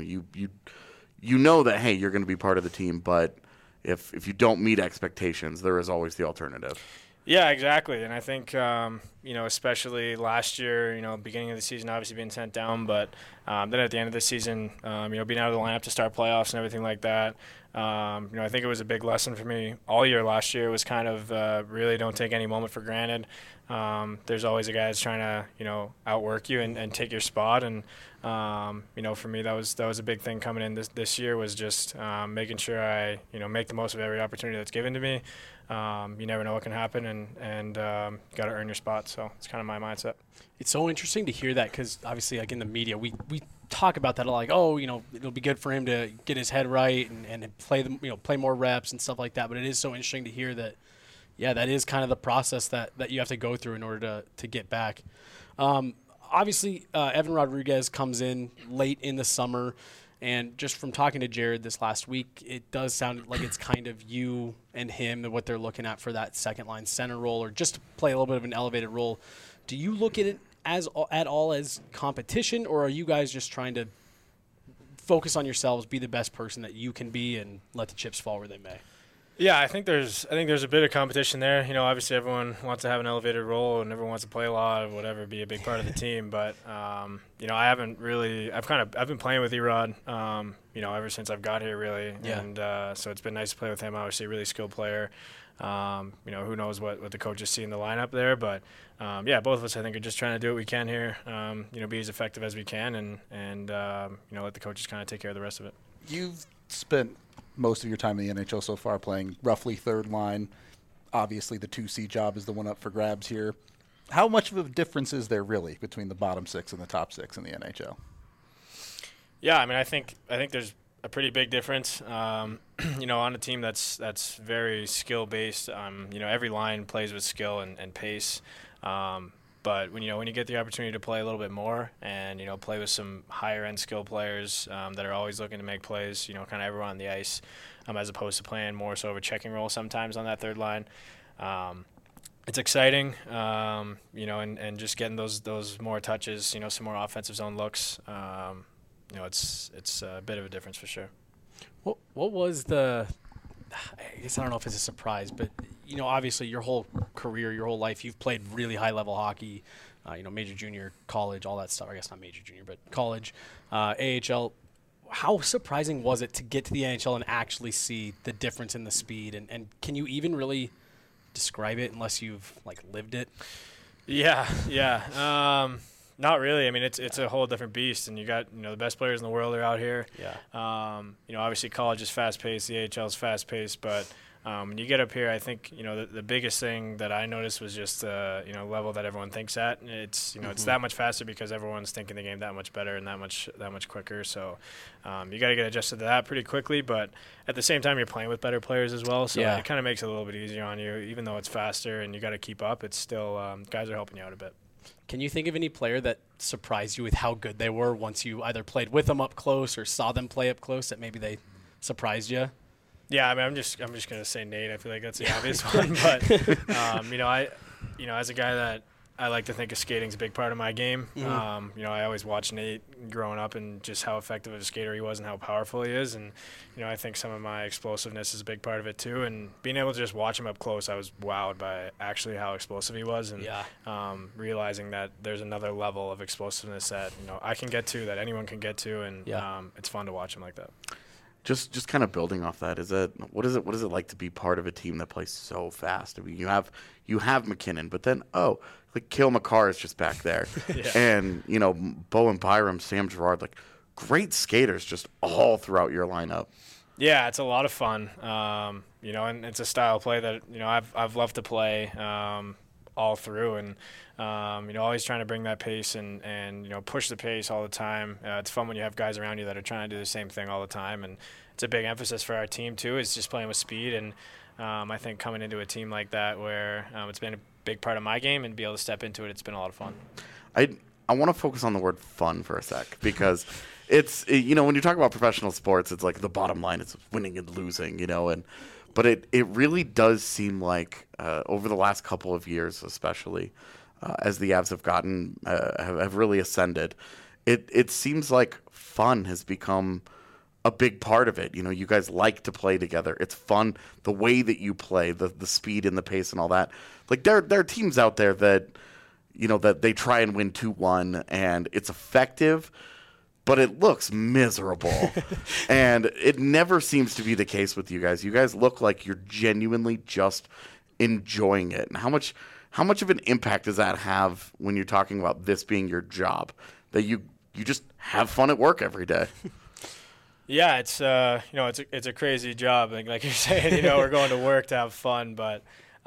you know that, hey, you're going to be part of the team, but if you don't meet expectations, there is always the alternative. Yeah, exactly. And I think, especially last year, beginning of the season, obviously being sent down, but then at the end of the season, being out of the lineup to start playoffs and everything like that, I think it was a big lesson for me all year last year was kind of really don't take any moment for granted. There's always a guy that's trying to, outwork you and take your spot. And, for me, that was a big thing coming in this year was just making sure I, make the most of every opportunity that's given to me. You never know what can happen, and you got to earn your spot. So it's kind of my mindset. It's so interesting to hear that because obviously, like in the media, we talk about that like, oh, it'll be good for him to get his head right and play more reps and stuff like that. But it is so interesting to hear that, yeah, that is kind of the process that you have to go through in order to get back. Obviously, Evan Rodriguez comes in late in the summer. And just from talking to Jared this last week, it does sound like it's kind of you and him and what they're looking at for that second-line center role or just to play a little bit of an elevated role. Do you look at it at all as competition, or are you guys just trying to focus on yourselves, be the best person that you can be, and let the chips fall where they may? Yeah, I think there's a bit of competition there. You know, obviously everyone wants to have an elevated role and everyone wants to play a lot, whatever, be a big part of the team. But you know, I've been playing with Erod, you know, ever since I've got here, really. Yeah. And so it's been nice to play with him. Obviously, a really skilled player. You know, who knows what the coaches see in the lineup there, but yeah, both of us I think are just trying to do what we can here. You know, be as effective as we can, and you know, let the coaches kind of take care of the rest of it. You've spent most of your time in the NHL so far playing roughly third line. Obviously, the 2C job is the one up for grabs here. How much of a difference is there really between the bottom 6 and the top 6 in the NHL? Yeah, I mean, I think there's a pretty big difference. You know, on a team that's very skill based. You know, every line plays with skill and pace. But when you get the opportunity to play a little bit more and, you know, play with some higher end skill players that are always looking to make plays, you know, kind of everyone on the ice, as opposed to playing more so of a checking role sometimes on that third line. It's exciting, you know, and just getting those more touches, you know, some more offensive zone looks. You know, it's a bit of a difference for sure. What was the? I guess I don't know if it's a surprise, but you know, obviously your whole career, your whole life, you've played really high level hockey. You know, major, junior, college, all that stuff. I guess not major, junior, but college, AHL. How surprising was it to get to the NHL and actually see the difference in the speed? And can you even really describe it unless you've like lived it? Yeah. Not really. I mean, it's a whole different beast, and you got, you know, the best players in the world are out here. Yeah. You know, obviously college is fast paced, the AHL is fast paced, but when you get up here, I think, you know, the biggest thing that I noticed was just you know, level that everyone thinks at. It's, you know, it's that much faster because everyone's thinking the game that much better and that much quicker. So you got to get adjusted to that pretty quickly, but at the same time you're playing with better players as well, so yeah, it kind of makes it a little bit easier on you. Even though it's faster and you got to keep up, it's still guys are helping you out a bit. Can you think of any player that surprised you with how good they were once you either played with them up close or saw them play up close, that maybe they surprised you? Yeah, I mean, I'm just gonna say Nate. I feel like that's the obvious one, but you know, as a guy that I like to think of skating's a big part of my game. Mm-hmm. You know, I always watched Nate growing up and just how effective of a skater he was and how powerful he is. And, you know, I think some of my explosiveness is a big part of it too. And being able to just watch him up close, I was wowed by actually how explosive he was. And realizing that there's another level of explosiveness that, you know, I can get to, that anyone can get to. And it's fun to watch him like that. Just kind of building off that, what is it like to be part of a team that plays so fast? I mean, you have McKinnon, but then like Cale Makar is just back there, and you know, Bowen Byram, Sam Girard, like great skaters just all throughout your lineup. Yeah, it's a lot of fun. You know, and it's a style of play that, you know, I've loved to play all through, and you know, always trying to bring that pace and you know, push the pace all the time. It's fun when you have guys around you that are trying to do the same thing all the time, and it's a big emphasis for our team too. Is just playing with speed, and I think coming into a team like that where it's been a big part of my game and be able to step into it, it's been a lot of fun. I want to focus on the word fun for a sec, because you know, when you talk about professional sports, it's like the bottom line is winning and losing, you know, but it really does seem like over the last couple of years, especially as the Avs have gotten have really ascended, it seems like fun has become a big part of it. You know, you guys like to play together. It's fun the way that you play, the speed and the pace and all that. Like there are teams out there that, you know, that they try and win 2-1 and it's effective, but it looks miserable. And it never seems to be the case with you guys. You guys look like you're genuinely just enjoying it. And how much of an impact does that have when you're talking about this being your job, that you just have fun at work every day? Yeah, it's you know, it's a crazy job. Like you're saying, you know, we're going to work to have fun, but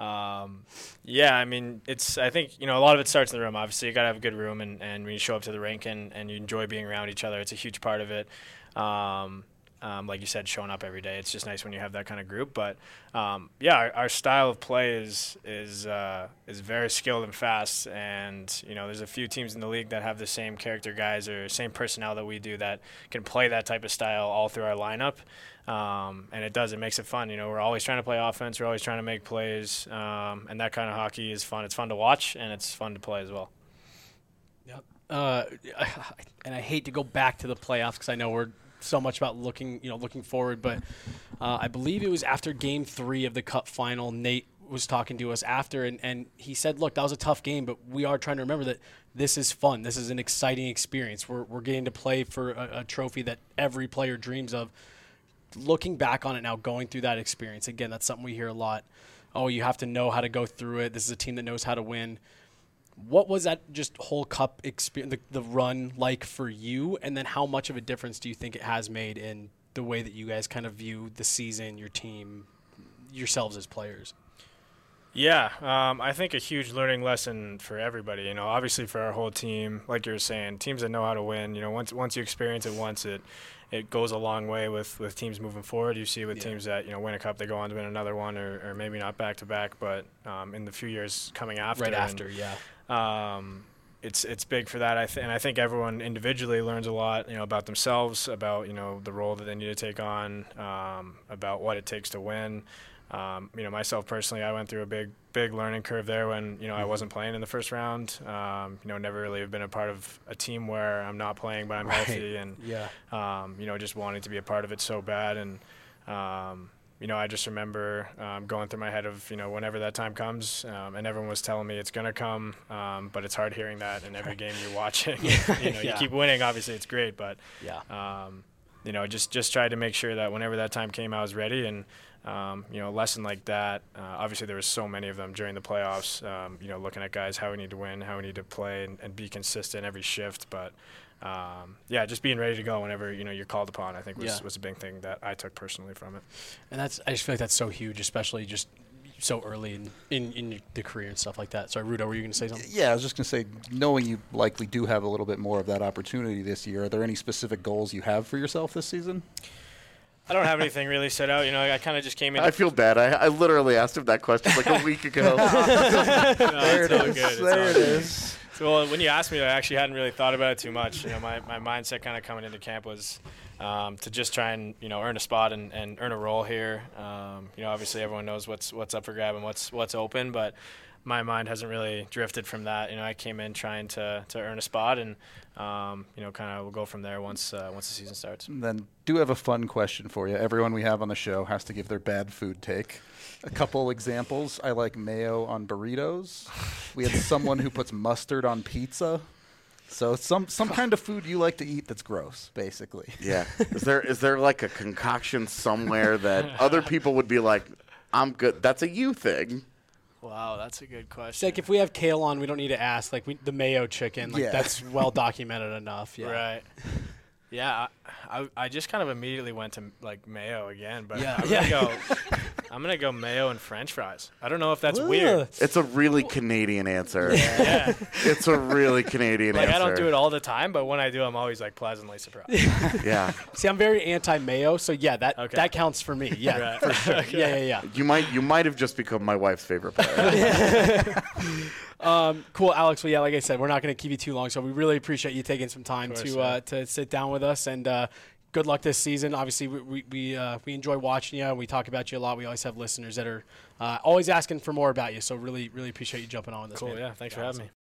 yeah, I mean, I think, you know, a lot of it starts in the room. Obviously, you got to have a good room, and when you show up to the rink and you enjoy being around each other, it's a huge part of it. Like you said, showing up every day, it's just nice when you have that kind of group. But yeah, our style of play is very skilled and fast. And you know, there's a few teams in the league that have the same character guys or same personnel that we do that can play that type of style all through our lineup. And it makes it fun. You know, we're always trying to play offense. We're always trying to make plays. And that kind of hockey is fun. It's fun to watch, and it's fun to play as well. Yep. And I hate to go back to the playoffs because I know we're so much about looking forward, but I believe it was after Game 3 of the Cup final, Nate was talking to us after, and he said, look, that was a tough game, but we are trying to remember that this is fun. This is an exciting experience. We're getting to play for a trophy that every player dreams of. Looking back on it now, going through that experience, again, that's something we hear a lot. Oh, you have to know how to go through it. This is a team that knows how to win. What was that just whole Cup experience, the run like for you? And then how much of a difference do you think it has made in the way that you guys kind of view the season, your team, yourselves as players? Yeah, I think a huge learning lesson for everybody. You know, obviously for our whole team, like you were saying, teams that know how to win. You know, once you experience it once, it goes a long way with teams moving forward. You see with teams that win a cup, they go on to win another one, or maybe not back to back, but in the few years coming after. Right after, it's big for that. And I think everyone individually learns a lot, about themselves, about the role that they need to take on, about what it takes to win. Myself personally, I went through a big learning curve there when, I wasn't playing in the first round. Never really have been a part of a team where I'm not playing, but I'm healthy, and, just wanting to be a part of it so bad. And, I just remember going through my head of, whenever that time comes, and everyone was telling me it's going to come, but it's hard hearing that in every game you're watching. You keep winning, obviously it's great, but, just tried to make sure that whenever that time came, I was ready. And, a lesson like that, obviously there was so many of them during the playoffs, looking at guys, how we need to win, how we need to play and be consistent every shift. But, just being ready to go whenever, you're called upon, I think was a big thing that I took personally from it. And I just feel like that's so huge, especially just so early in the career and stuff like that. Sorry, Rudo, were you going to say something? Yeah, I was just going to say, knowing you likely do have a little bit more of that opportunity this year, are there any specific goals you have for yourself this season? I don't have anything really set out. I kind of just came in. I feel bad. I literally asked him that question like a week ago. There it is. There it is. So when you asked me, I actually hadn't really thought about it too much. My mindset kind of coming into camp was to just try and earn a spot and earn a role here. Obviously everyone knows what's up for grab and what's open, but my mind hasn't really drifted from that. I came in trying to earn a spot, and kind of we'll go from there once the season starts. And then do have a fun question for you. Everyone we have on the show has to give their bad food take. A couple examples. I like mayo on burritos. We had someone who puts mustard on pizza. So some kind of food you like to eat that's gross, basically. Yeah. Is there like a concoction somewhere that other people would be like, I'm good? That's a you thing. Wow, that's a good question. It's like if we have kale on, we don't need to ask. Like the mayo chicken, that's well documented enough. Yeah. Right. Yeah, I just kind of immediately went to mayo again, but I'm gonna go mayo and French fries. I don't know if that's weird. It's a really Canadian answer. Yeah. It's a really Canadian answer. I don't do it all the time, but when I do, I'm always pleasantly surprised. Yeah. See, I'm very anti-mayo, so that counts for me. Yeah, right. for sure. Okay. Yeah. You might have just become my wife's favorite player. Cool, Alex. Well, like I said, we're not going to keep you too long, so we really appreciate you taking some time to sit down with us, and good luck this season. Obviously, we enjoy watching you, and we talk about you a lot. We always have listeners that are always asking for more about you, so really, really appreciate you jumping on with us. Cool, man. yeah. Thanks for having me.